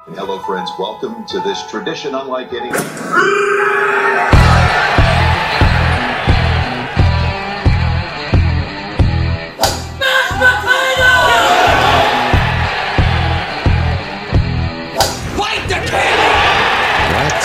Hello, friends. Welcome to this tradition unlike any. Fight the king! What?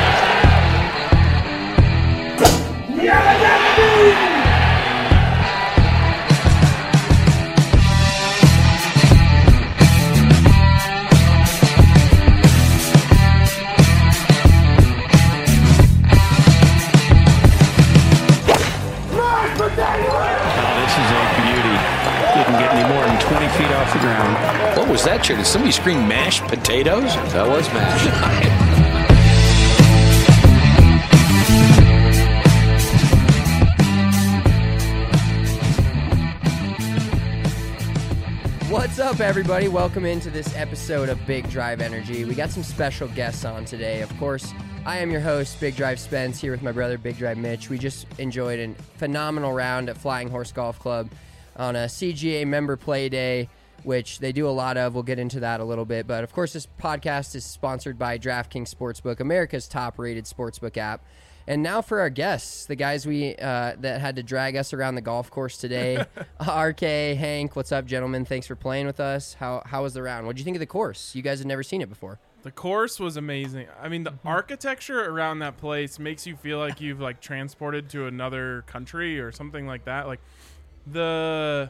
Didn't get any more than 20 feet off the ground. What was that, Chair? Did somebody scream mashed potatoes? That was mashed. What's up, everybody? Welcome into this episode of Big Drive Energy. We got some special guests on today. Of course, I am your host, Big Drive Spence, here with my brother, Big Drive Mitch. We just enjoyed a phenomenal round at Flying Horse Golf Club on a CGA member play day, which they do a lot of. We'll get into that a little bit. But, of course, this podcast is sponsored by DraftKings Sportsbook, America's top-rated sportsbook app. And now for our guests, the guys that had to drag us around the golf course today. RK, Hank, what's up, gentlemen? Thanks for playing with us. How was the round? What did you think of the course? You guys had never seen it before. The course was amazing. I mean, the architecture around that place makes you feel like you've transported to another country or something like that. The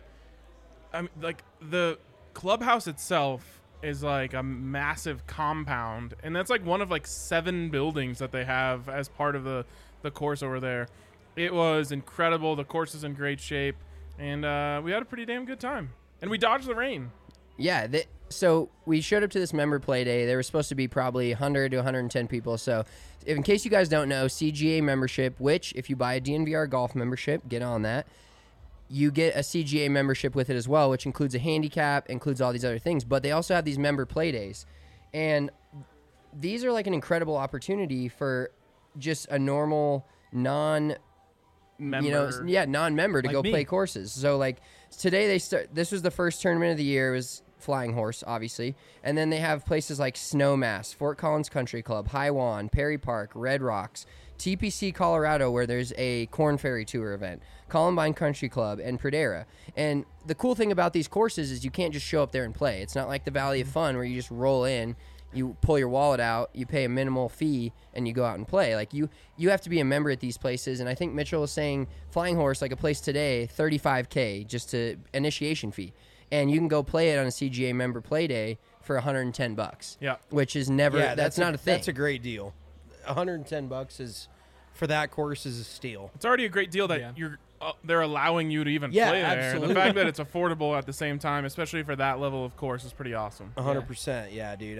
clubhouse itself is like a massive compound, and that's one of 7 buildings that they have as part of the course over there. It was incredible. The course is in great shape, and we had a pretty damn good time, and we dodged the rain. Yeah, so we showed up to this member play day. There was supposed to be probably 100 to 110 people. So in case you guys don't know, CGA membership, which if you buy a DNVR golf membership, get on that, you get a CGA membership with it as well, which includes a handicap, includes all these other things. But they also have these member play days. And these are like an incredible opportunity for just a normal non-member to go play courses. So today this was the first tournament of the year. It was Flying Horse, obviously. And then they have places like Snowmass, Fort Collins Country Club, Highwan, Perry Park, Red Rocks, TPC Colorado, where there's a Corn Ferry Tour event, Columbine Country Club, and Pradera. And the cool thing about these courses is you can't just show up there and play. It's not like the Valley of Fun where you just roll in, you pull your wallet out, you pay a minimal fee, and you go out and play. You have to be a member at these places. And I think Mitchell was saying Flying Horse, like a place today, $35K just to initiation fee. And you can go play it on a CGA member play day for $110. Yeah. Which is never, that's not a thing. That's a great deal. $110 is for that course is a steal. It's already a great deal that they're allowing you to even play there. Absolutely. The fact that it's affordable at the same time, especially for that level of course, is pretty awesome. 100%. Yeah, dude.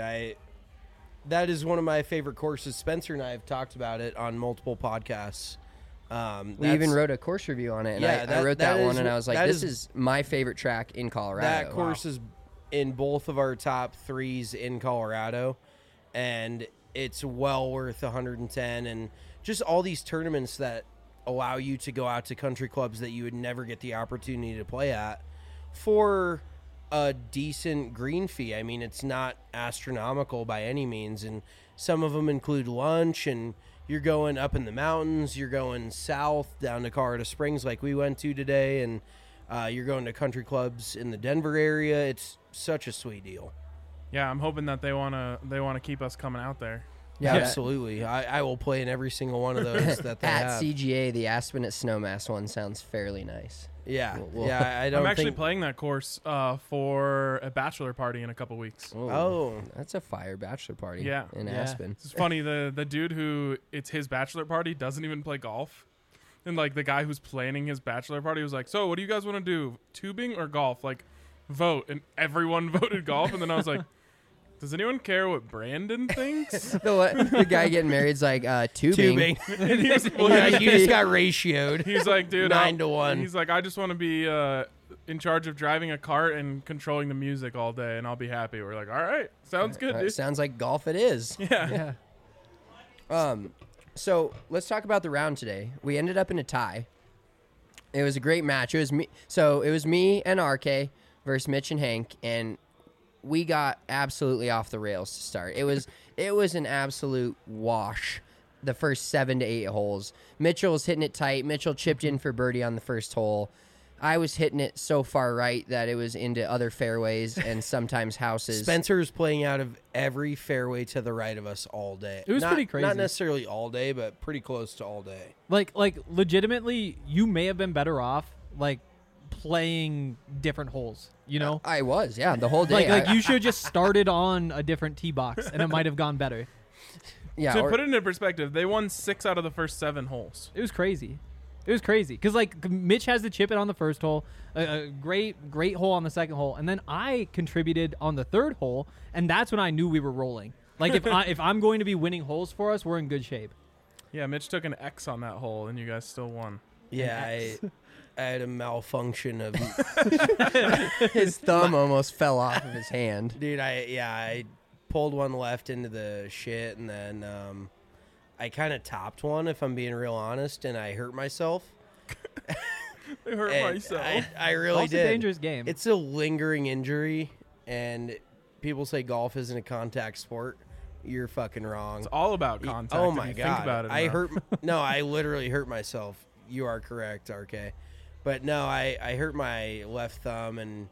That is one of my favorite courses. Spencer and I have talked about it on multiple podcasts. We even wrote a course review on it, and I wrote that one, and I was like, this is my favorite track in Colorado. That course is in both of our top 3s in Colorado, and it's well worth 110. And just all these tournaments that allow you to go out to country clubs that you would never get the opportunity to play at for a decent green fee. I mean, it's not astronomical by any means, and some of them include lunch, and you're going up in the mountains, you're going south down to Colorado Springs like we went to today, and you're going to country clubs in the Denver area. It's such a sweet deal. Yeah, I'm hoping that they wanna keep us coming out there. Yeah, absolutely. I will play in every single one of those that they at have. CGA, the Aspen at Snowmass one sounds fairly nice. Yeah, I'm actually playing that course for a bachelor party in a couple weeks. Oh, that's a fire bachelor party. In Aspen. It's funny. The dude who it's his bachelor party doesn't even play golf, and the guy who's planning his bachelor party was like, "So, what do you guys want to do? Tubing or golf? Vote." And everyone voted golf, and then I was like, does anyone care what Brandon thinks? The guy getting married is like, tubing. And you just got ratioed. He's like, dude, 9 to 1. He's like, I just want to be in charge of driving a cart and controlling the music all day, and I'll be happy. We're like, all right, sounds good, dude. Sounds like golf it is. Yeah. So let's talk about the round today. We ended up in a tie. It was a great match. It was me and RK versus Mitch and Hank, and we got absolutely off the rails to start. It was an absolute wash. The first 7 to 8 holes. Mitchell was hitting it tight. Mitchell chipped in for birdie on the first hole. I was hitting it so far right that it was into other fairways and sometimes houses. Spencer's playing out of every fairway to the right of us all day. It was pretty crazy. Not necessarily all day, but pretty close to all day. Like legitimately, you may have been better off like playing different holes. You know, I was, yeah, the whole day. like you should have just started on a different tee box, and it might have gone better. Yeah, To or- put it into perspective, they won 6 out of the first 7 holes. It was crazy. It was crazy because like Mitch has to chip it on the first hole, a great hole on the second hole, and then I contributed on the third hole, and that's when I knew we were rolling. Like if I'm going to be winning holes for us, we're in good shape. Yeah, Mitch took an X on that hole, and you guys still won. Yeah, I had a malfunction of his thumb almost fell off of his hand. dude. I pulled one left into the shit, and then I kind of topped one, if I'm being real honest, and I hurt myself. I hurt And myself. I really Golf's a did. dangerous game. It's a lingering injury, and people say golf isn't a contact sport. You're fucking wrong. It's all about contact. Oh if my you god! Think about it I enough. No, I literally hurt myself. You are correct, RK. But no, I hurt my left thumb, and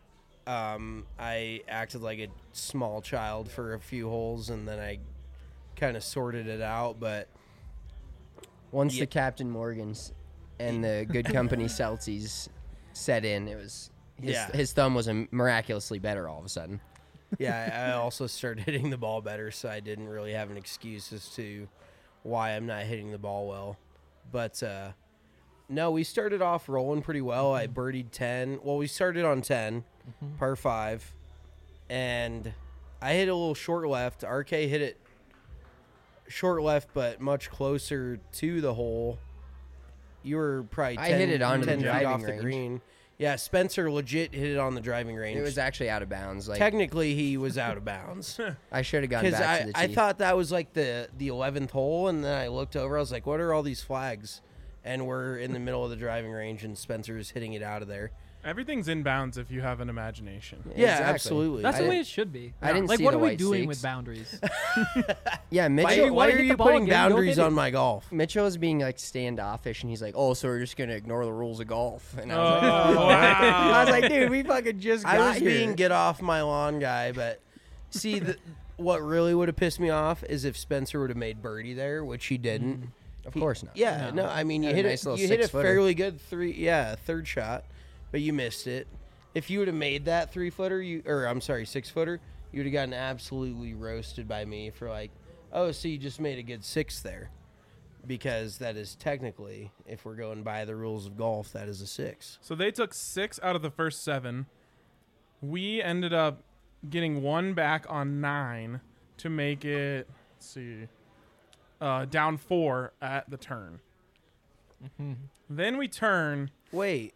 I acted like a small child for a few holes, and then I kind of sorted it out. But Once Yeah. the Captain Morgans and the Good Company Celtics set in, it was his thumb was miraculously better all of a sudden. yeah, I also started hitting the ball better, so I didn't really have an excuse as to why I'm not hitting the ball well. But no, we started off rolling pretty well. I birdied 10. Well, we started on 10, par 5, and I hit a little short left. RK hit it short left, but much closer to the hole. You were probably 10, I hit it onto the 10 feet driving off the range. green. Yeah, Spencer legit hit it on the driving range. It was actually out of bounds. Like Technically, he was out of bounds. I should have gone Because back to the tee. I thought that was like the 11th hole, and then I looked over. I was like, what are all these flags? And we're in the middle of the driving range, and Spencer's hitting it out of there. Everything's in bounds if you have an imagination. Yeah, Exactly. absolutely. That's I the way didn't- it should be. I didn't like, see what the are we white doing stakes. with boundaries? Yeah, Why Mitchell. Why wanna are hit you the ball putting again? Go boundaries hit on it. my golf? Mitchell was being like standoffish, and he's like, "Oh, so we're just gonna ignore the rules of golf." And I Oh, was like, wow. I was like, "Dude, we fucking just got I was here." being get off my lawn guy, but see, what really would have pissed me off is if Spencer would have made birdie there, which he didn't. Of course not. Yeah, no, I mean, you Had a hit nice it. little You hit a six-footer. fairly good third shot, but you missed it. If you would have made that 3-footer, 6-footer, you would have gotten absolutely roasted by me for like, oh, so you just made a good 6 there, because that is technically, if we're going by the rules of golf, that is a 6. So they took 6 out of the first 7. We ended up getting 1 back on 9 to make it, let's see, down 4 at the turn. Then we turn. Wait.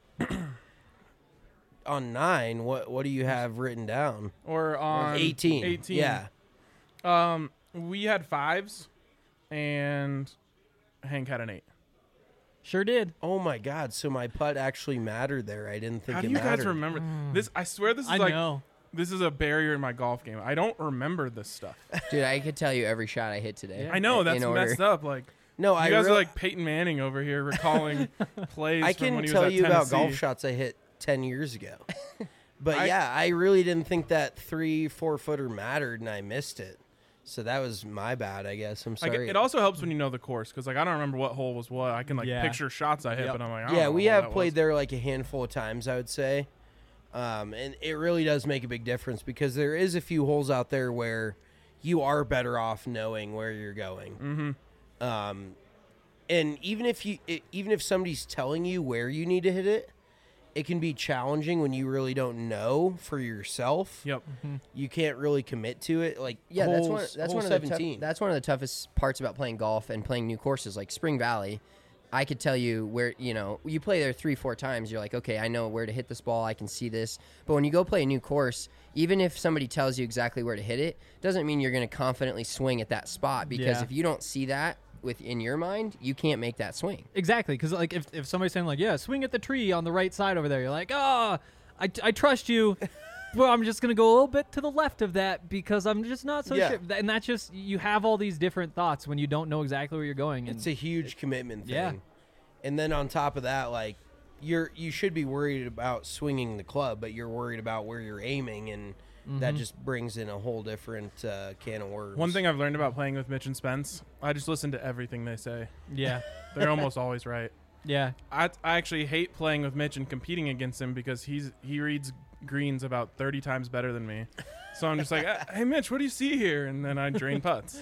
On 9, what do you have written down? Or on 18. 18. Yeah. We had 5s, and Hank had an 8. Sure did. Oh my God! So my putt actually mattered there. I didn't think How it do you mattered. guys remember this? I swear this is I like know. this is a barrier in my golf game. I don't remember this stuff. Dude, I could tell you every shot I hit today. I know in that's order. messed up. Like No, you I guys are real- like Peyton Manning over here recalling plays. I from when can he was tell at you about golf Tennessee. shots I hit 10 years ago. But I really didn't think that 3-4 footer mattered, and I missed it. So that was my bad, I guess. I'm Like, sorry. it also helps when you know the course, because like I don't remember what hole was what. I can like Yeah. picture shots I hit, Yep. but I'm like, I don't yeah, know we what have that played was. there like a handful of times, I would say. And it really does make a big difference, because there is a few holes out there where you are better off knowing where you're going. Mm-hmm. And even if somebody's telling you where you need to hit it, it can be challenging when you really don't know for yourself. Yep. You can't really commit to it. Like Yeah, hole that's one of 17. that's one of the toughest parts about playing golf and playing new courses like Spring Valley. I could tell you where, you play there 3-4 times, you're like, okay, I know where to hit this ball, I can see this. But when you go play a new course, even if somebody tells you exactly where to hit it, doesn't mean you're going to confidently swing at that spot, because Yeah. if you don't see that in your mind, you can't make that swing. Exactly, because like if somebody's saying like, yeah, swing at the tree on the right side over there, you're like, oh, I trust you, well, I'm just gonna go a little bit to the left of that because I'm just not so Yeah. sure. And that's just you have all these different thoughts when you don't know exactly where you're going. And It's a huge commitment thing. Yeah. And then on top of that, like you should be worried about swinging the club, but you're worried about where you're aiming, and that just brings in a whole different can of worms. One thing I've learned about playing with Mitch and Spence, I just listen to everything they say. yeah, They're almost always right. yeah. I actually hate playing with Mitch and competing against him because he reads greens about 30 times better than me. So I'm just like, hey Mitch, what do you see here? And then I drain putts.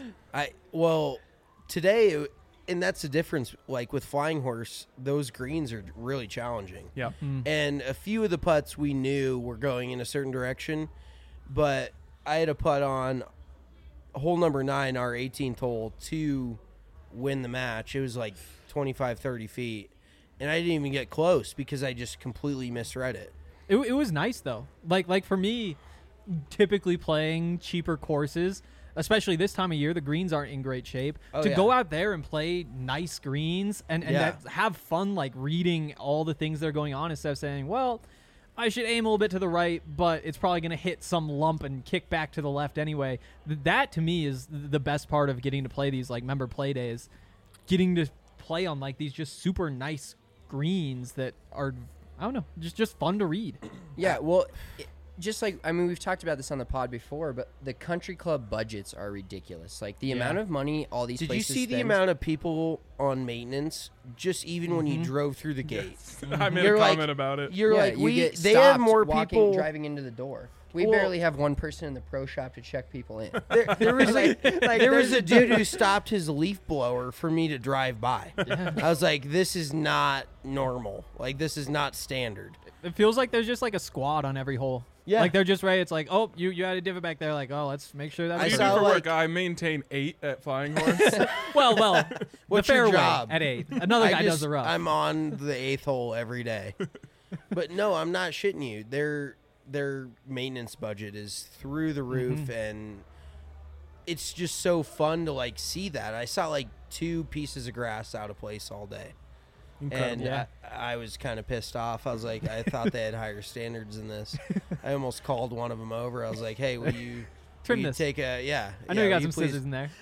Today, and that's the difference. Like with Flying Horse, those greens are really challenging. Yeah. And a few of the putts we knew were going in a certain direction, but I had a putt on hole number 9, our 18th hole, to win the match. It was like 25, 30 feet, and I didn't even get close because I just completely misread it. It was nice though. Like for me, typically playing cheaper courses, especially this time of year, the greens aren't in great shape. Oh, to yeah. go out there and play nice greens and Yeah. have fun, like reading all the things that are going on instead of saying, well, I should aim a little bit to the right, but it's probably going to hit some lump and kick back to the left anyway. That to me is the best part of getting to play these like member play days, getting to play on like these just super nice greens that are, I don't know, just fun to read. Yeah, well, just like, I mean, we've talked about this on the pod before, but the country club budgets are ridiculous. Like the amount of money all these Did you places see the spend- amount of people on maintenance just even when you drove through the gate? I made You're a like- comment about it. You're Yeah, like, you get they have stopped more walking, people. driving into the door. We Well- barely have one person in the pro shop to check people in. There was there was a dude who stopped his leaf blower for me to drive by. I was like, this is not normal. Like, this is not standard. It feels like there's just like a squad on every hole. Yeah. Like they're just ready. It's like, oh, you had a divot back there. Like, oh, let's make sure that. What do I you saw, do for like- work? I maintain 8 at Flying Horse. well, What's the your fairway job? at 8. Another guy does the rough. I'm on the 8th hole every day. But no, I'm not shitting you. Their maintenance budget is through the roof, and it's just so fun to like see that. I saw like 2 pieces of grass out of place all day. And Yeah. I was kind of pissed off. I was like, I thought they had higher standards than this. I almost called one of them over. I was like, hey, will you Trim will you this. take a, yeah. I know yeah, you got will some please- scissors in there.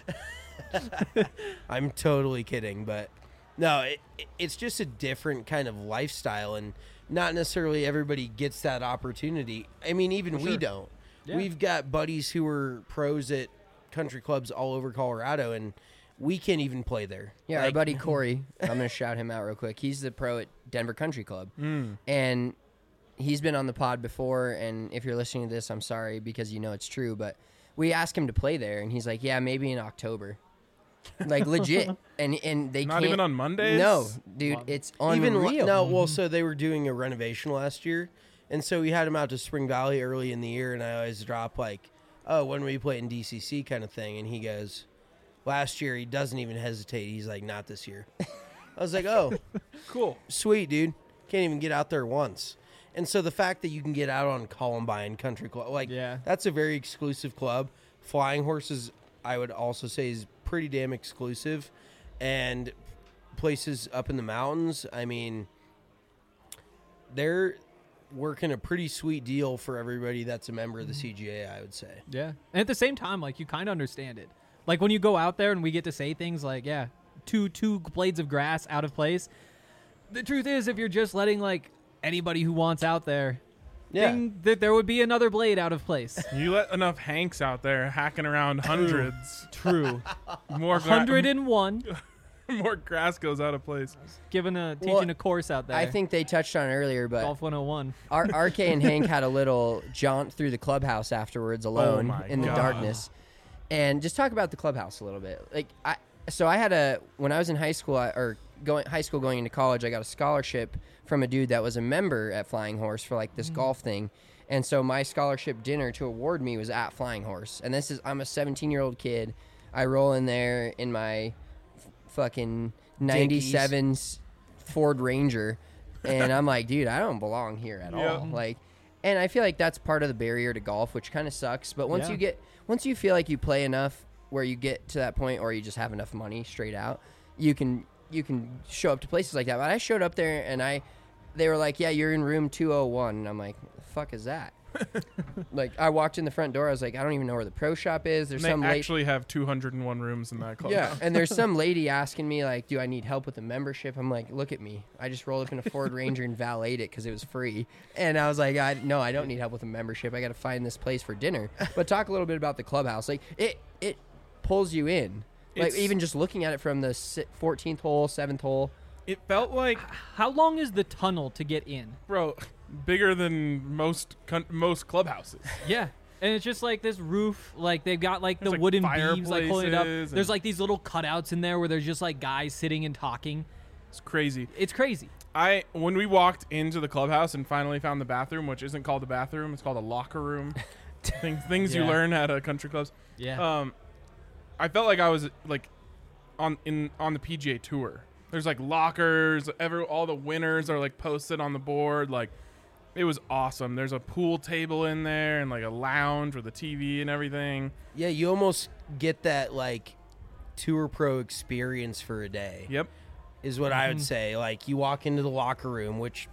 I'm totally kidding, but no, it's just a different kind of lifestyle, and not necessarily everybody gets that opportunity. I mean, even we don't. Yeah. We've got buddies who are pros at country clubs all over Colorado, and we can't even play there. Yeah, our Like, buddy Corey, I'm going to shout him out real quick. He's the pro at Denver Country Club. And he's been on the pod before, and if you're listening to this, I'm sorry because you know it's true, but we asked him to play there, and he's like, yeah, maybe in October. Like, legit. And they Not can't. even on Mondays? No, dude, it's unreal. Even no, well, so they were doing a renovation last year, and so we had him out to Spring Valley early in the year, and I always drop like, "Oh, when we play in DCC?" kind of thing, and he goes, "Last year." He doesn't even hesitate. He's like, "Not this year." I was like, "Oh, Cool. sweet, dude. Can't even get out there once." And so the fact that you can get out on Columbine Country Club, like, Yeah. that's a very exclusive club. Flying Horses, I would also say, is pretty damn exclusive. And places up in the mountains, I mean, they're working a pretty sweet deal for everybody that's a member of the CGA, I would say. Yeah. And at the same time, like, you kind of understand it. Like, when you go out there and we get to say things like, yeah, two blades of grass out of place. The truth is, if you're just letting, like, anybody who wants out there, that there would be another blade out of place. You let enough Hanks out there hacking around hundreds. True. More 101. more grass goes out of place. Teaching a course out there. I think they touched on it earlier, but Golf 101. RK and Hank had a little jaunt through the clubhouse afterwards alone my in the God. darkness. And just talk about the clubhouse a little bit. Like I had when I was in high school going into college, I got a scholarship from a dude that was a member at Flying Horse for like this golf thing. And so my scholarship dinner to award me was at Flying Horse. And I'm a 17-year-old kid. I roll in there in my fucking 97 Ford Ranger, and I'm like, dude, I don't belong here at all. Like, and I feel like that's part of the barrier to golf, which kind of sucks. But once you feel like you play enough where you get to that point, or you just have enough money straight out, you can show up to places like that. But I showed up there, and they were like, yeah, you're in room 201, and I'm like, the fuck is that? Like I walked in the front door, I was like, I don't even know where the pro shop is. There's They some actually have 201 rooms in that club. yeah, and there's some lady asking me like, do I need help with the membership? I'm like, look at me. I just rolled up in a Ford Ranger and valeted it because it was free. And I was like, no, I don't need help with a membership. I got to find this place for dinner. But talk a little bit about the clubhouse. Like it pulls you in. Like It's- even just looking at it from the 14th hole, 7th hole. It felt like, How long is the tunnel to get in? bro, bigger than most clubhouses. Yeah. And it's just like this roof, like they've got like There's, the like, wooden beams like holding it up. fireplaces There's and- like these little cutouts in there where there's just like guys sitting and talking. It's crazy. It's crazy. When we walked into the clubhouse and finally found the bathroom, which isn't called a bathroom, it's called a locker room. things you Yeah. learn at country clubs. Yeah. I felt like I was like on the PGA Tour. There's like lockers. All the winners are like posted on the board. Like it was awesome. There's a pool table in there and like a lounge with a TV and everything. Yeah, you almost get that like tour pro experience for a day. Yep. Is what I would say. Like you walk into the locker room, which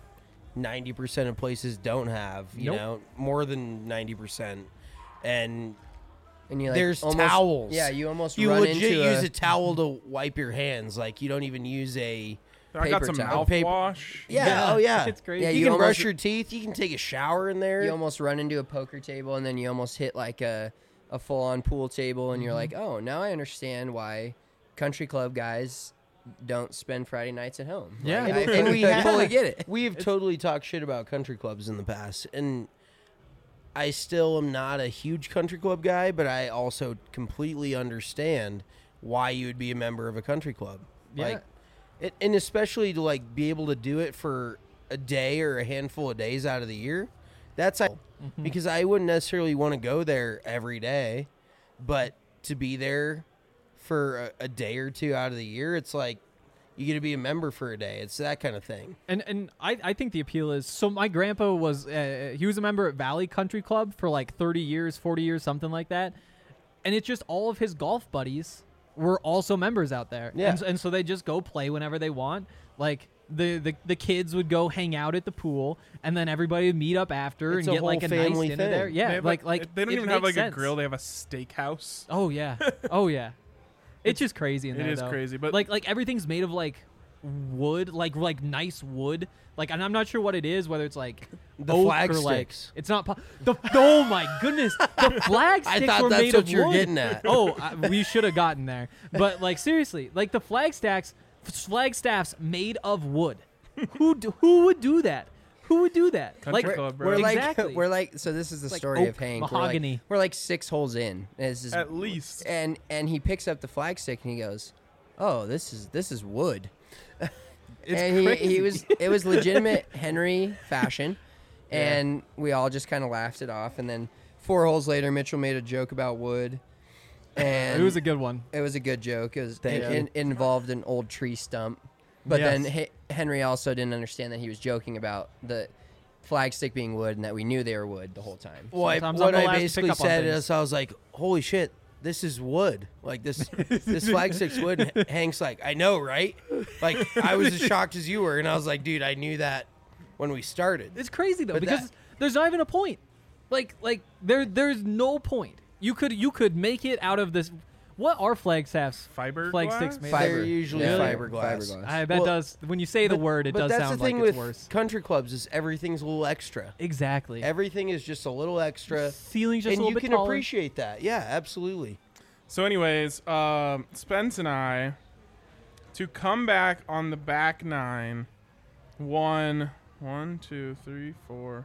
90% of places don't have, you Nope. know, more than 90%. And And you like there's almost, towels. Yeah, you almost you run legit into use a towel to wipe your hands. Like you don't even use a I got Paper some towel. mouthwash. yeah. Oh yeah, It's crazy. Yeah, You, you can almost- brush your teeth. You can take a shower in there. you almost run into a poker table, and then you almost hit like a full-on pool table, and you're Mm-hmm. like, oh, now I understand why country club guys don't spend Friday nights at home. Yeah. Like, And we I have- fully get it. We have totally talked shit about country clubs in the past, and I still am not a huge country club guy, but I also completely understand why you would be a member of a country club. Yeah. Like, and especially to like be able to do it for a day or a handful of days out of the year. That's because I wouldn't necessarily want to go there every day, but to be there for a day or two out of the year, it's like you get to be a member for a day. It's that kind of thing. And I think the appeal is, so my grandpa was he was a member at Valley Country Club for like 30 years, 40 years, something like that. And it's just all of his golf buddies were also members out there. Yeah. And so they just go play whenever they want. Like the kids would go hang out at the pool, and then everybody would meet up after It's and a get like whole a nice family dinner thing. there. They Yeah, have, like they don't it even have makes like sense. a grill. They have a steakhouse. Oh yeah. Oh yeah. It's just crazy in It there. is though. crazy, but- like everything's made of like wood, like nice wood. Like, and I'm not sure what it is, whether it's like The oak flag or like sticks. it's not. Oh my goodness, the flag I sticks thought were that's made what of you're wood. getting at. Oh, we should have gotten there. But like seriously, like the flag staffs made of wood. Who would do that? Who would do that? Country Like club, bro. We're Exactly. like, we're like, so this is the Like story of oak, Hank. mahogany. We're like 6 holes in. And it's just, At least. and he picks up the flag stick and he goes, "Oh, this is wood." It's and crazy. it was legitimate Henry fashion, and we all just kind of laughed it off. And then 4 holes later, Mitchell made a joke about wood, and It was a good one. it was a good joke. It was Thank you. it involved an old tree stump, but Yes. then Henry also didn't understand that he was joking about the flag stick being wood and that we knew they were wood the whole time. Well, Sometimes what I'm the I last to basically pick up on said things. is I was like, holy shit, this is wood. Like this flag stick's wood. And Hank's like, I know, right? Like I was as shocked as you were, and I was like, dude, I knew that when we started. It's crazy though But because that- there's not even a point. Like there's no point. You could make it out of this. What are flag staffs? Fiberglass? Flag sticks made. They're of? usually Yeah. fiberglass. I bet Well, does. When you say the word, it but does that's sound the thing like it's with worse. country clubs is everything's a little extra. Exactly. Everything is just a little extra, Ceiling's just and a little you bit can taller. appreciate that. Yeah, absolutely. So, anyways, Spence and I, to come back on the back 9, won 1, 2, 3, 4,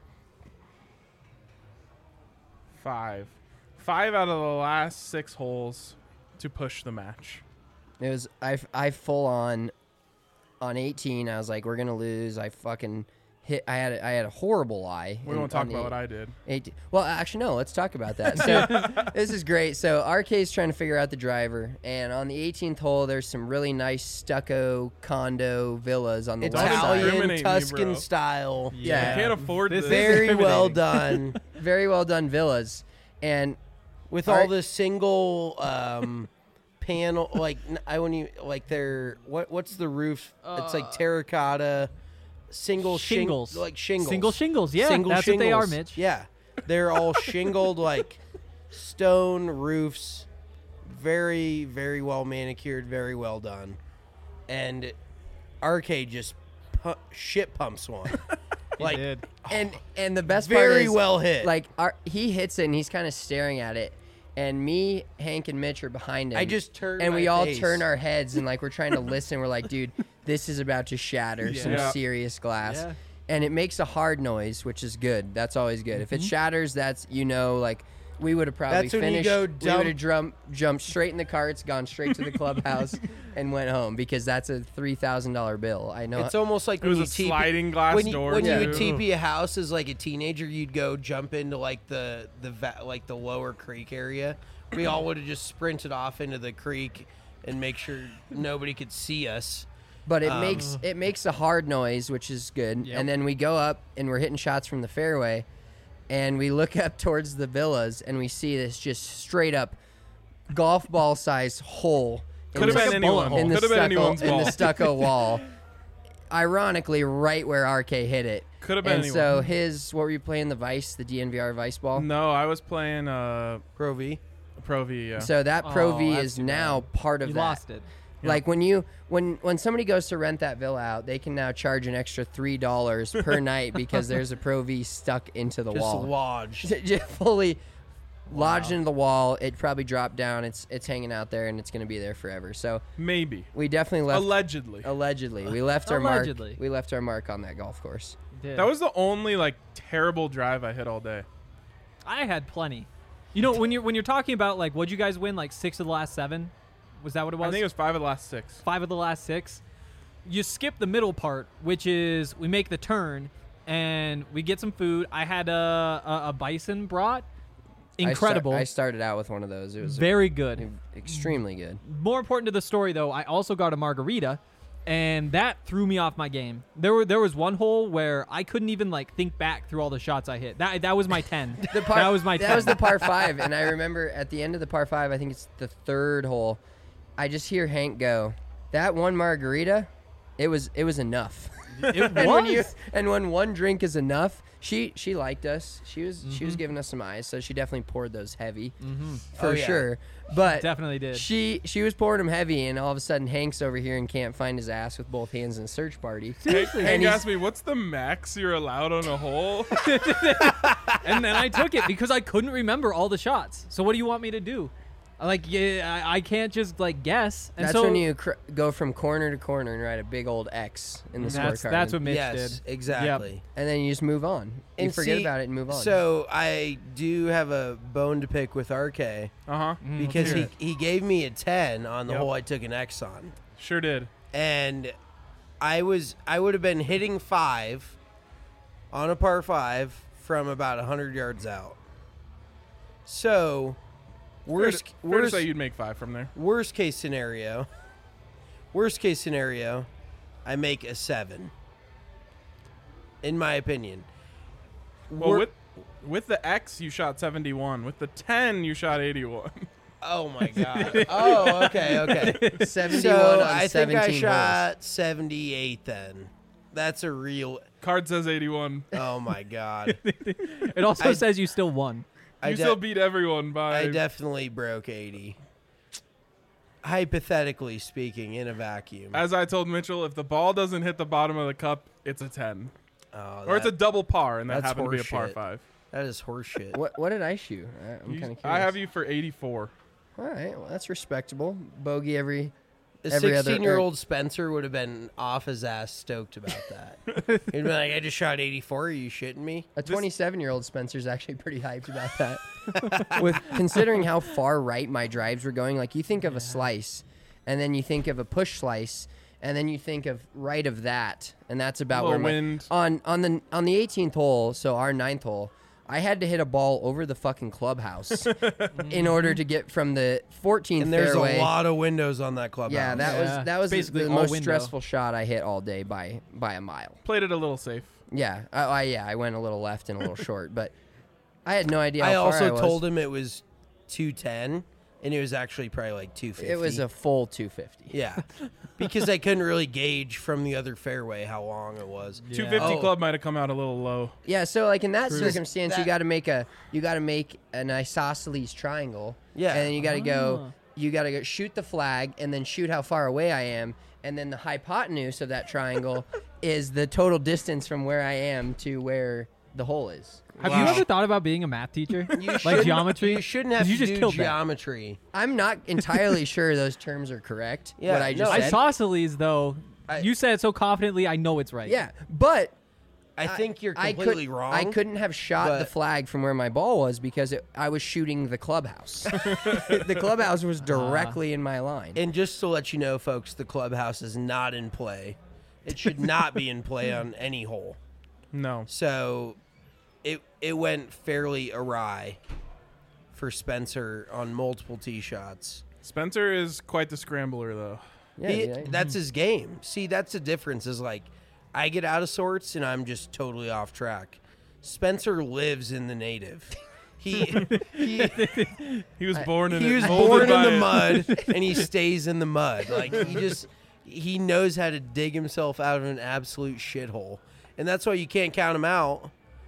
5. 5 out of the last 6 holes to push the match. It was I full on 18. I was like, we're gonna lose. I fucking hit. I had a horrible lie. We won't talk about what I did. 18. Well, actually, no. Let's talk about that. So this is great. So RK's trying to figure out the driver, and on the 18th hole, there's some really nice stucco condo villas on the Don't left side. discriminate Italian me, Tuscan bro. style. Yeah. I can't afford this. Very well Intimidating. done. Very well done villas, and With All all right. the single panel, like I wouldn't even like their what's the roof? It's like terracotta, single Shingles. like shingles, Single shingles. Yeah, Single that's what they are, shingles. Mitch. Yeah, They're all shingled, like stone roofs, very, very well manicured, very well done. And RK just shit pumps one. Like, did. And the best part very is, well hit. like, he hits it and he's kind of staring at it. And me, Hank, and Mitch are behind him. I just turned and we my all face. turn our heads and like we're trying to listen. We're like, dude, this is about to shatter some Yeah. serious glass. Yeah. And it makes a hard noise, which is good. That's always good. If Mm-hmm. it shatters, that's like we would have probably That's when you finished. go We would have jumped straight in the carts, gone straight to the clubhouse, and went home because that's a $3,000 bill. I know. It's almost like It when was you a sliding TP, glass when you, door, When you would too. TP a house as like a teenager, you'd go jump into like the lower creek area. We all would have just sprinted off into the creek and make sure nobody could see us. But it makes a hard noise, which is good. Yep. And then we go up and we're hitting shots from the fairway, and we look up towards the villas and we see this just straight up golf ball size hole. in Could have the- been anyone. in the Could have been anyone's in the ball. stucco wall. Ironically, right where RK hit it. Could have been And anyone. so his, what were you playing? The Vice, the DNVR Vice ball. No, I was playing Pro V. Pro V. Yeah. So that Pro Oh, V that's is too now bad. part of You that. lost it. Like when somebody goes to rent that villa out, they can now charge an extra $3 per night because there's a Pro V stuck into the Just wall, lodged. just fully lodged into the wall. It probably dropped down. It's hanging out there and it's going to be there forever. So Maybe. we definitely left. Allegedly. We left our mark. Allegedly. We left our mark on that golf course. Did. That was the only like terrible drive I hit all day. I had plenty. You know, when you're talking about like what'd you guys win, like 6 of the last 7? Was that what it was? I think it was 5 of the last 6. 5 of the last 6. You skip the middle part, which is we make the turn and we get some food. I had a bison brat. Incredible. I started out with one of those. It was Very good. extremely good. More important to the story, though, I also got a margarita, and that threw me off my game. There was one hole where I couldn't even like think back through all the shots I hit. That was my 10. That was my 10. That was the par 5, and I remember at the end of the par 5, I think it's the third hole. I just hear Hank go, "That one margarita, it was enough." It And when one drink is enough, she liked us. She was giving us some eyes, so she definitely poured those heavy for Oh, yeah. sure. But Definitely did. She was pouring them heavy, and all of a sudden Hank's over here and can't find his ass with both hands in a search party. Hank he's- asked me, "What's the max you're allowed on a hole?" And then I took it because I couldn't remember all the shots. So what do you want me to do? Like, yeah, I can't just like guess. And That's so when you go from corner to corner and write a big old X in the scorecard. that's what Mitch Yes, did. exactly. And then you just move on. You And forget see, about it and move on. So I do have a bone to pick with RK Uh-huh. because hear he gave me a 10 on the Yep. hole I took an X on. Sure did. And I would have been hitting 5 on a par 5 from about 100 yards out. So worst Fair to say you'd make 5 from there. worst case scenario, I make a 7. In my opinion. Well, Wor- with the X, you shot 71. With the 10, you shot 81. Oh my god. Oh, okay. 71 So on I think 17 I holes. shot 78 then. That's a real. Card says 81. Oh my god. It also says you still won. You still beat everyone by. I definitely broke 80. Hypothetically speaking, in a vacuum. As I told Mitchell, if the ball doesn't hit the bottom of the cup, it's a 10. Oh, Or it's a double par, and that that's happened to be a par horseshit. 5. that is horseshit. What did I shoot? I'm kind of curious. I have you for 84. All right, well, that's respectable. Bogey every A every other- 16-year-old Spencer would have been off his ass stoked about that. He'd be like, I just shot 84. Are you shitting me? A 27-year-old Spencer's actually pretty hyped about that. With considering how far right my drives were going, like you think of a slice, and then you think of a push slice, and then you think of right of that, and that's about where Little wind. on the 18th hole, so our 9th hole, I had to hit a ball over the fucking clubhouse in order to get from the 14th And there's fairway. a lot of windows on that clubhouse. Yeah, Yeah. that was Basically the all most window. stressful shot I hit all day by a mile. Played it a little safe. Yeah, I went a little left and a little short, but I had no idea. I How far also was. told him it was 210, and it was actually probably like 250. It was a full 250. yeah, because I couldn't really gauge from the other fairway how long it was. 250 Oh. club might have come out a little low. Yeah, so like in that circumstance, you That- got to make an isosceles triangle. Yeah. and then you got to go. You got to go shoot the flag, and then shoot how far away I am, and then the hypotenuse of that triangle is the total distance from where I am to where the hole is. Have you ever thought about being a math teacher? Like shouldn't- geometry? You shouldn't have you to just do killed that. geometry. I'm not entirely sure those terms are correct. Yeah, what I just no, said. Isosceles, though, you said it so confidently, I know it's right. Yeah, but I think you're I completely could, wrong. I couldn't have shot the but- flag from where my ball was because I was shooting the clubhouse. The clubhouse was directly in my line. And just to let you know, folks, the clubhouse is not in play. It should not be in play on any hole. No. So it went fairly awry for Spencer on multiple tee shots. Spencer is quite the scrambler, though. Yeah, That's his game. See, that's the difference is like I get out of sorts and I'm just totally off track. Spencer lives in the native. He He was born in he it, was molded born in by the it. mud and he stays in the mud. Like he knows how to dig himself out of an absolute shithole. And that's why you can't count him out.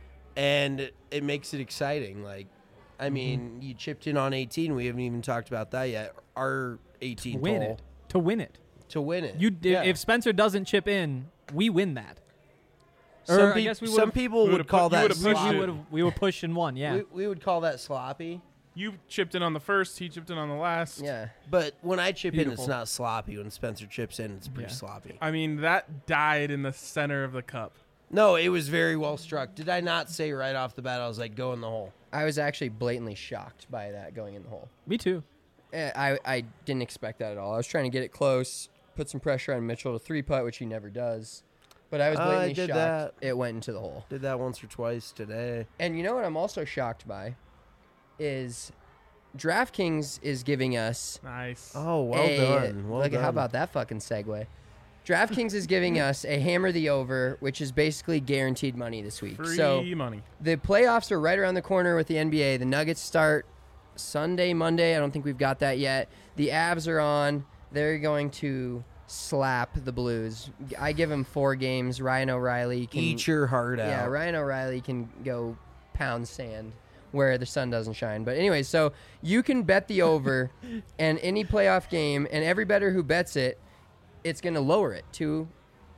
And it makes it exciting. Like, I mean, you chipped in on 18. We haven't even talked about that yet. Our 18th Win hole it. To win it. to win it. You If Spencer doesn't chip in, we win that. Some, Or I peop- guess we some would've- people we would would've call put- you that would've pushed sloppy. it. We were pushing one, yeah. We would call that sloppy. You chipped in on the first. He chipped in on the last. yeah. But when I chip in, it's Beautiful. not sloppy. When Spencer chips in, it's pretty Yeah. sloppy. I mean, that died in the center of the cup. No, it was very well struck. Did I not say right off the bat, I was like, go in the hole? I was actually blatantly shocked by that going in the hole. Me too. I didn't expect that at all. I was trying to get it close, put some pressure on Mitchell to 3-putt, which he never does. But I was I blatantly did shocked that. it went into the hole. Did that once or twice today. And you know what I'm also shocked by is DraftKings is giving us Nice. Oh, well done. Well look done. at how about that fucking segue. DraftKings is giving us a hammer the over, which is basically guaranteed money this week. Free So money. the playoffs are right around the corner with the NBA. The Nuggets start Sunday, Monday. I don't think we've got that yet. The Avs are on. They're going to slap the Blues. I give them 4 games. Ryan O'Reilly can Eat your heart out. Yeah, Ryan O'Reilly can go pound sand where the sun doesn't shine. But anyway, so you can bet the over and any playoff game, and every bettor who bets it, it's going to lower it to.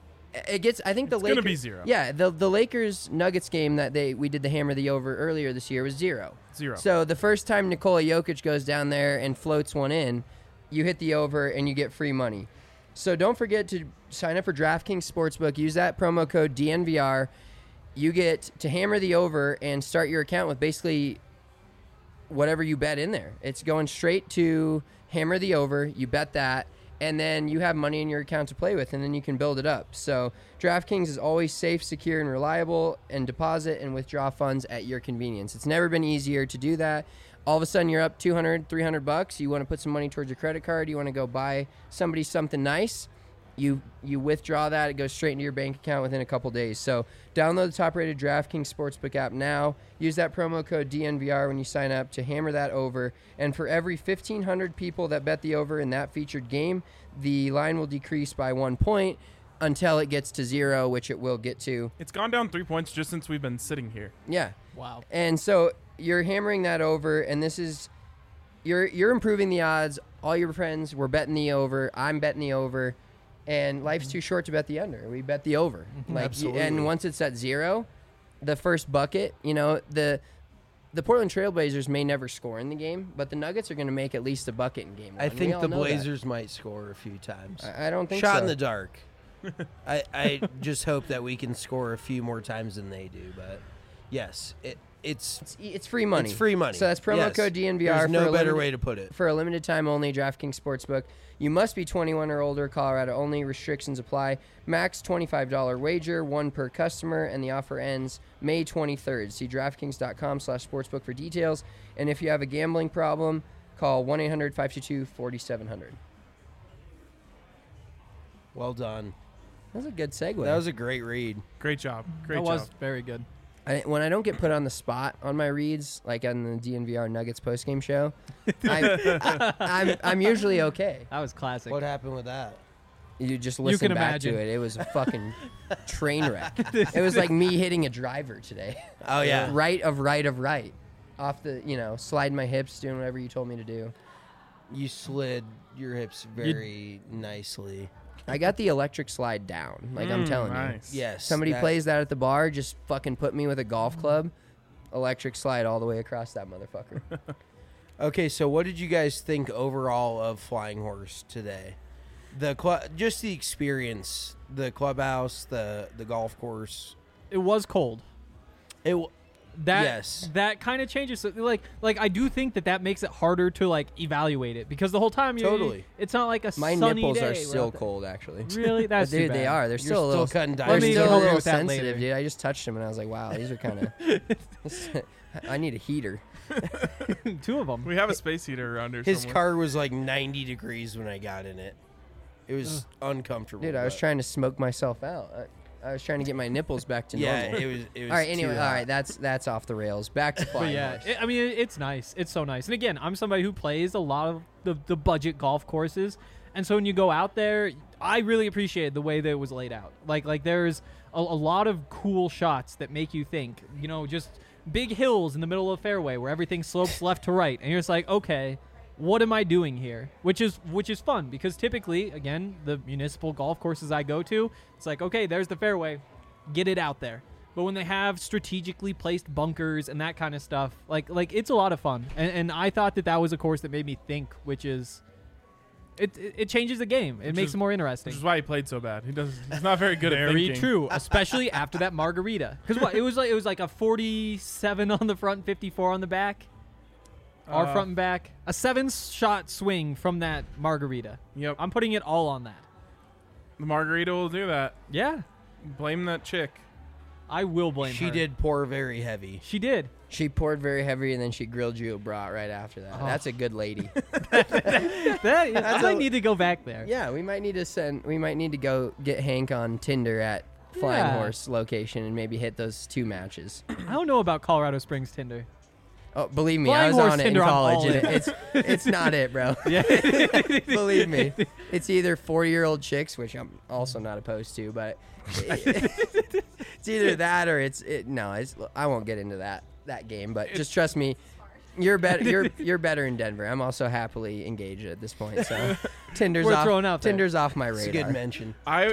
It gets. I think the It's Lakers. gonna be 0. Yeah, the Lakers Nuggets game that we did the hammer the over earlier this year was 0. 0. So the first time Nikola Jokic goes down there and floats one in, you hit the over and you get free money. So don't forget to sign up for DraftKings Sportsbook. Use that promo code DNVR. You get to hammer the over and start your account with basically whatever you bet in there. It's going straight to hammer the over. You bet that, and then you have money in your account to play with, and then you can build it up. So DraftKings is always safe, secure, and reliable, and deposit and withdraw funds at your convenience. It's never been easier to do that. All of a sudden, you're up $200, $300. You want to put some money towards your credit card. You want to go buy somebody something nice. You withdraw that. It goes straight into your bank account within a couple days. So download the top-rated DraftKings Sportsbook app now. Use that promo code DNVR when you sign up to hammer that over. And for every 1,500 people that bet the over in that featured game, the line will decrease by 1 point until it gets to 0, which it will get to. It's gone down 3 points just since we've been sitting here. Yeah. Wow. And so you're hammering that over, and this is you're improving the odds. All your friends were betting the over. I'm betting the over. And life's too short to bet the under. We bet the over. Absolutely. And once it's at 0, the first bucket, the Portland Trailblazers may never score in the game, but the Nuggets are going to make at least a bucket in game 1. I We think all the know that. Blazers might score a few times. I don't think Shot so. in the dark. I just hope that we can score a few more times than they do. But yes, It's free money. It's free money. So that's promo Yes. code DNVR. There's for no a better limited- way to put it. For a limited time only, DraftKings Sportsbook. You must be 21 or older. Colorado only. Restrictions apply. Max $25 wager, 1 per customer, and the offer ends May 23rd. See DraftKings.com/sportsbook for details. And if you have a gambling problem, call 1-800-522-4700. Well done. That was a good segue. That was a great read. Great job. Great That job. was very good. When I don't get put on the spot on my reads, like on the DNVR Nuggets postgame show, I'm usually okay. That was classic. What happened with that? You just listen can back imagine. to it. It was a fucking train wreck. It was like me hitting a driver today. Oh, yeah. right. Off the, slide my hips, doing whatever you told me to do. You slid your hips very nicely. I got the electric slide down, like I'm telling nice. you. Yes. Somebody that- plays that at the bar, just fucking put me with a golf club, electric slide all the way across that motherfucker. Okay, so what did you guys think overall of Flying Horse today? Just the experience, the clubhouse, the golf course. It was cold. Yes. That kind of changes. So, like I do think that makes it harder to like evaluate it because the whole time Totally. it's not like a My sunny nipples day. are We're still out there. cold, actually. Really? That's Dude, too they bad. are. They're still a little. cutting They're diamonds. still a help you little with that sensitive, later. dude. I just touched them and I was like, wow, these are kind of. I need a heater. Two of them. We have a space heater around here His somewhere. car was like 90 degrees when I got in it. It was uncomfortable. Dude, I was but- trying to smoke myself out. I was trying to get my nipples back to Yeah, normal. it was. All right. too Anyway, all hot. right. That's off the rails. Back to But flying yeah, horse. I mean, it's nice. It's so nice. And again, I'm somebody who plays a lot of the budget golf courses, and so when you go out there, I really appreciate the way that it was laid out. Like there's a lot of cool shots that make you think. Just big hills in the middle of the fairway where everything slopes left to right, and you're just like, okay, what am I doing here? Which is fun because typically, again, the municipal golf courses I go to, it's like, okay, there's the fairway, get it out there. But when they have strategically placed bunkers and that kind of stuff, like it's a lot of fun. And I thought that was a course that made me think, which is it changes the game. It makes it more interesting. Which is why he played so bad. He's not very good at Very thinking. true, especially after that margarita. Because what it was like a 47 on the front, 54 on the back. Our front and back, a 7-shot swing from that margarita. Yep. I'm putting it all on that. The margarita will do that. Yeah, Blame that chick. I will blame She her. did pour very heavy. She did. She poured very heavy and then she grilled you a brat right after that. That's a good lady. I might need to go back there. Yeah, we might need to go get Hank on Tinder at Flying Yeah. Horse location and maybe hit those 2 matches. I don't know about Colorado Springs Tinder. Oh, believe me, Flying I was Horse on it in Tinder, I'm college, all and in. it's not it, bro. Yeah. Believe me, it's either 40-year-old chicks, which I'm also not opposed to, but it's either that or I won't get into that game. But just trust me, you're better. You're better in Denver. I'm also happily engaged at this point. So Tinder's We're off. throwing out there. Tinder's off my It's a radar. good mention.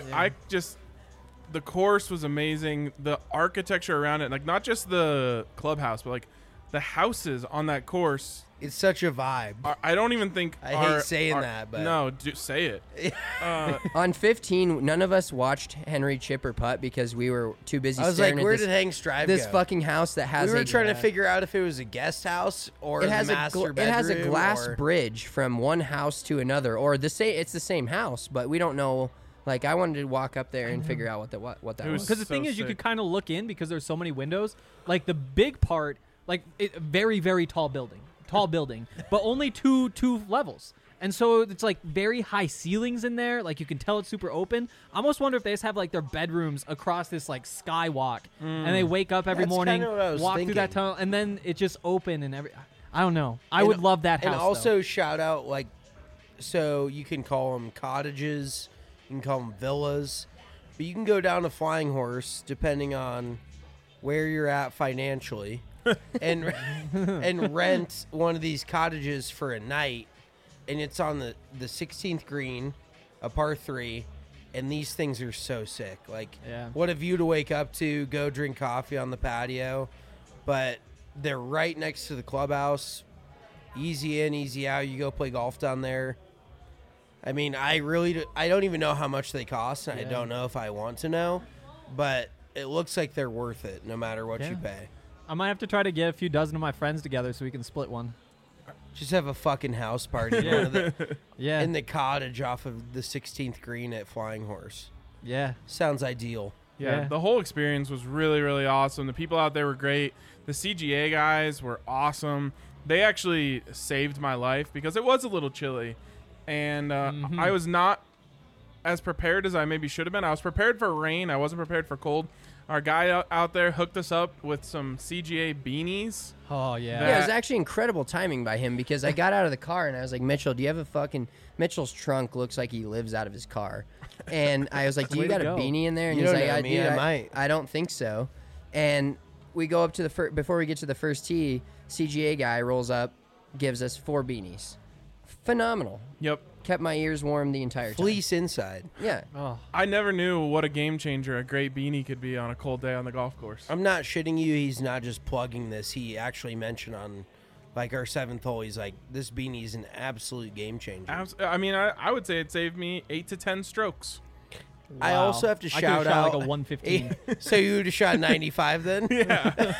The course was amazing. The architecture around it, like not just the clubhouse, but like the houses on that course. It's such a vibe. I don't even think I hate saying that, but- no, say it. On 15, none of us watched Henry chip or putt because we were too busy I was like, staring where at did Hank's drive this go? fucking house that has We were a trying to figure out if it was a guest house or it has the master it has a bedroom glass or- bridge from one house to another, or it's the same house, but we don't know. Like, I wanted to walk up there and figure out what that It was. was Because the so thing is, you sick. could kind of look in because there's so many windows. Like the big part, very very tall building, but only two levels. And so it's like very high ceilings in there. Like you can tell it's super open. I almost wonder if they just have like their bedrooms across this like skywalk, and they wake up every That's morning, kinda what I was walk through that thinking. tunnel, and then it's just open and I don't know. I would love that house. And though. also shout out so you can call them cottages, you can call them villas, but you can go down to Flying Horse depending on where you're at financially, and rent one of these cottages for a night, and it's on the 16th green, a par 3. And these things are so sick. Like, Yeah. what a view to wake up to, go drink coffee on the patio. But they're right next to the clubhouse. Easy in, easy out. You go play golf down there. I mean, I don't even know how much they cost, and I don't know if I want to know. But it looks like they're worth it no matter what you Yeah. pay. I might have to try to get a few dozen of my friends together so we can split one. Just have a fucking house party in, one of the, Yeah. in the cottage off of the 16th green at Flying Horse. Yeah. Sounds ideal. Yeah, the whole experience was really, really awesome. The people out there were great. The CGA guys were awesome. They actually saved my life because it was a little chilly. And I was not as prepared as I maybe should have been. I was prepared for rain. I wasn't prepared for cold. Our guy out there hooked us up with some CGA beanies. Oh yeah. Yeah, it was actually incredible timing by him because I got out of the car and I was like, Mitchell, do you have a fucking Mitchell's trunk looks like he lives out of his car. And I was like, do Way you to got a go. beanie in there? And You he's don't like, know I me, do. I might. I don't think so. And we go up to the before we get to the first tee, CGA guy rolls up, gives us 4 beanies. Phenomenal. Yep. Kept my ears warm the entire time. Fleece inside. Yeah. Oh. I never knew what a game changer a great beanie could be on a cold day on the golf course. I'm not shitting you. He's not just plugging this. He actually mentioned on, like, our 7th hole, he's like, this beanie's an absolute game changer. I mean, I would say it saved me 8 to 10 strokes. I Wow. also have to I could've shout shot out. like a 115. So you would have shot 95 then? Yeah.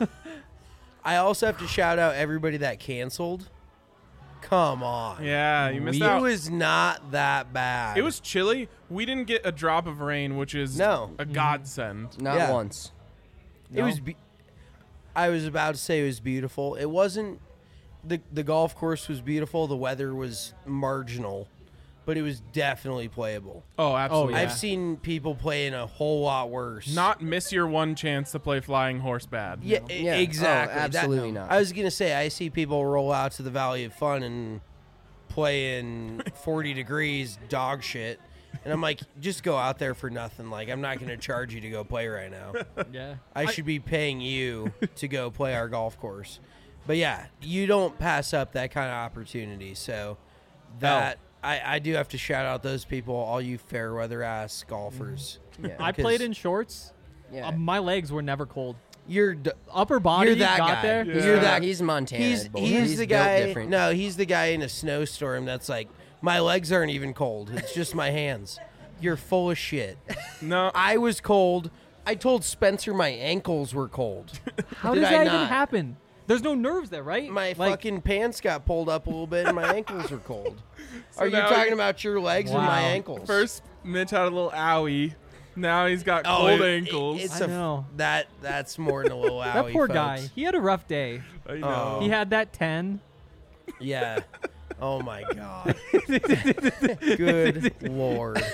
I also have to shout out everybody that canceled. Come on. Yeah, you missed It out. was not that bad. It was chilly. We didn't get a drop of rain, which is No. a godsend. Not Yeah. once. It was. I was about to say it was beautiful. It wasn't. The golf course was beautiful. The weather was marginal, but it was definitely playable. Oh, absolutely. yeah. I've seen people playing a whole lot worse. Not miss your one chance to play Flying Horse bad. Yeah, Yeah. exactly. Oh, absolutely not. I was gonna say I see people roll out to the Valley of Fun and play in 40 degrees dog shit, and I'm like, just go out there for nothing. Like, I'm not gonna charge you to go play right now. Yeah. I should be paying you to go play our golf course. But yeah, you don't pass up that kind of opportunity. So that I do have to shout out those people, all you fair weather ass golfers. Yeah. I played in shorts. Yeah. My legs were never cold. You're Upper body You're that got guy. there. Yeah. You're that. He's Montana. He's bull. the built guy. different. No, he's the guy in a snowstorm that's like, my legs aren't even cold. It's just my hands. You're full of shit. No, I was cold. I told Spencer my ankles were cold. How Did does I that not? even happen? There's no nerves there, right? My Like, fucking pants got pulled up a little bit and my ankles were cold. Are you now talking you- about your legs or my Wow. ankles? first Mitch had a little owie. Now he's got Oh, cold it- ankles. It's I know. That's more than a little that owie, poor folks. guy. He had a rough day. I know. He had that 10. Yeah. Oh my god. Good lord.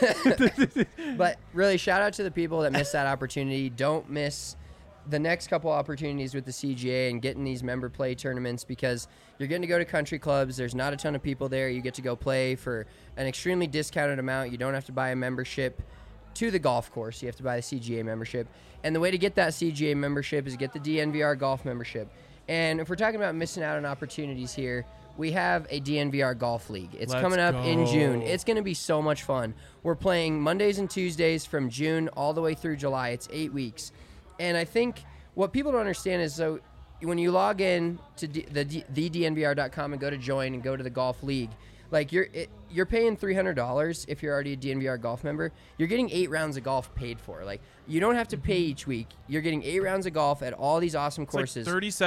But really, shout out to the people that missed that opportunity. Don't miss the next couple opportunities with the CGA and getting these member play tournaments because you're getting to go to country clubs. There's not a ton of people there. You get to go play for an extremely discounted amount. You don't have to buy a membership to the golf course. You have to buy the CGA membership. And the way to get that CGA membership is get the DNVR golf membership. And if we're talking about missing out on opportunities here, we have a DNVR Golf League. It's Let's coming up in go. June. It's going to be so much fun. We're playing Mondays and Tuesdays from June all the way through July. It's 8 weeks. And I think what people don't understand is, so when you log in to thednvr.com and go to join and go to the Golf League, like you're paying $300 if you're already a DNVR golf member. You're getting 8 rounds of golf paid for. Like, you don't have to pay each week. You're getting 8 rounds of golf at all these awesome It's like courses.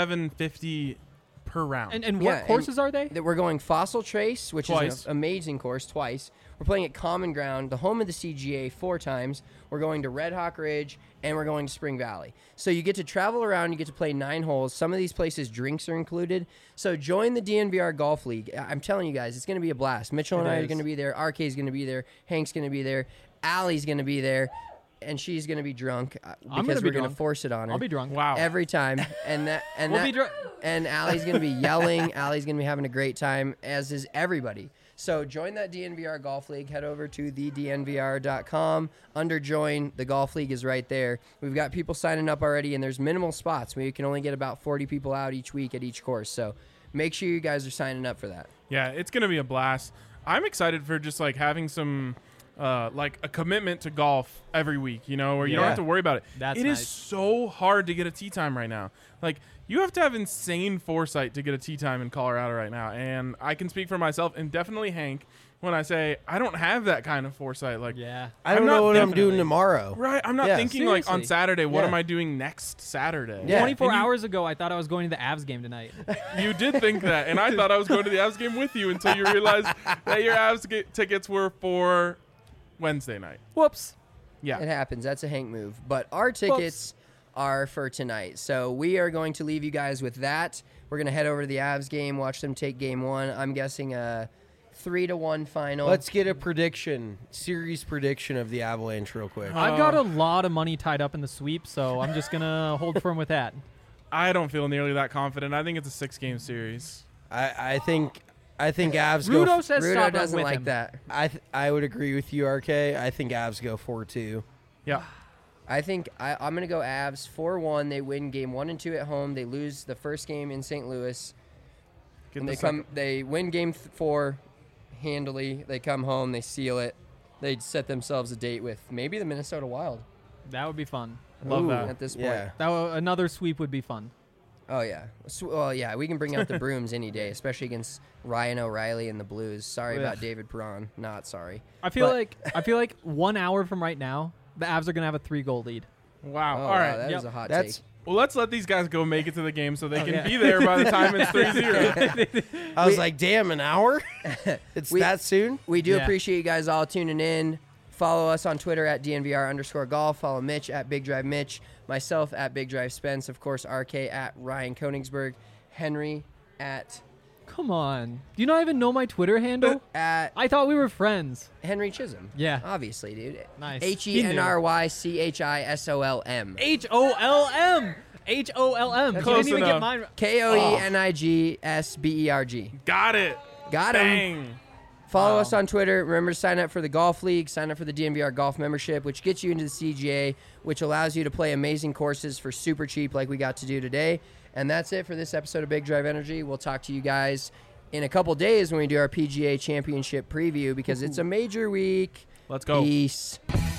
$37.50 per round. And Yeah, what courses are they? That we're going Fossil Trace, which Twice. is an amazing course, twice. We're playing at Common Ground, the home of the CGA, 4 times. We're going to Red Hawk Ridge, and we're going to Spring Valley. So you get to travel around. You get to play 9 holes. Some of these places, drinks are included. So join the DNVR Golf League. I'm telling you guys, it's going to be a blast. Mitchell and I are going to be there. RK is going to be there. Hank's going to be there. Allie's going to be there. And she's going to be drunk I'm because gonna be we're going to drunk. force it on her. I'll be drunk. wow. Every time. And We'll be drunk. and Allie's going to be yelling. Allie's going to be having a great time, as is everybody. So join that DNVR Golf League. Head over to thednvr.com. Under join, the Golf League is right there. We've got people signing up already, and there's minimal spots. We can only get about 40 people out each week at each course. So make sure you guys are signing up for that. Yeah, it's going to be a blast. I'm excited for just like having some like a commitment to golf every week, you know, where you don't Yeah. have to worry about it. That's It is nice. so hard to get a tee time right now. Like, you have to have insane foresight to get a tee time in Colorado right now. And I can speak for myself and definitely Hank when I say I don't have that kind of foresight. Like, Yeah. I don't I'm know not what I'm definitely- doing tomorrow. right, I'm not Yeah. thinking like on Seriously. Saturday, what Yeah. am I doing next Saturday? Yeah. 24 And you- hours ago, I thought I was going to the Avs game tonight. You did think that, and I thought I was going to the Avs game with you until you realized that your Avs tickets were for Wednesday night. Whoops. Yeah. It happens. That's a Hank move. But our tickets are for tonight. So we are going to leave you guys with that. We're going to head over to the Avs game, watch them take game 1. I'm guessing 3-1 final. Let's get a series prediction of the Avalanche real quick. I've got a lot of money tied up in the sweep, so I'm just gonna hold firm with that. I don't feel nearly that confident. I think it's a 6-game series. I think Avs Rudo go. says Rudo stop doesn't with like him. that. I would agree with you, RK. I think Avs go 4-2. Yeah. I think I'm going to go Avs 4-1. They win game 1 and 2 at home. They lose the first game in St. Louis. Get And the they win game 4 handily. They come home. They seal it. They set themselves a date with maybe the Minnesota Wild That would be fun. Love that. at this point. Yeah. Another sweep would be fun. Oh, yeah. Well, yeah, we can bring out the brooms any day, especially against Ryan O'Reilly and the Blues. Sorry about Ugh. David Perron. Not sorry. I feel like 1 hour from right now, the Avs are gonna have a 3-goal lead. Wow. Oh, All wow, right. that Yep. is a hot That's take. Well, let's let these guys go make it to the game so they can yeah. be there by the time it's 3-0. I was like, damn, an hour? It's that soon? We do Yeah. appreciate you guys all tuning in. Follow us on Twitter at DNVR_golf. Follow Mitch at Big Drive Mitch. Myself at Big Drive Spence. Of course, RK at Ryan Koenigsberg. Henry at Come on. Do you not even know my Twitter handle? I thought we were friends. Henry Chisholm. Yeah. Obviously, dude. Nice. HENRYCHISOLM. HOLM. HOLM. Close Didn't even enough. get mine. KOENIGSBERG. Got it. Got him. Bang. Follow us on Twitter. Remember to sign up for the Golf League. Sign up for the DNVR Golf membership, which gets you into the CGA, which allows you to play amazing courses for super cheap like we got to do today. And that's it for this episode of Big Drive Energy. We'll talk to you guys in a couple days when we do our PGA Championship preview because it's a major week. Let's go. Peace.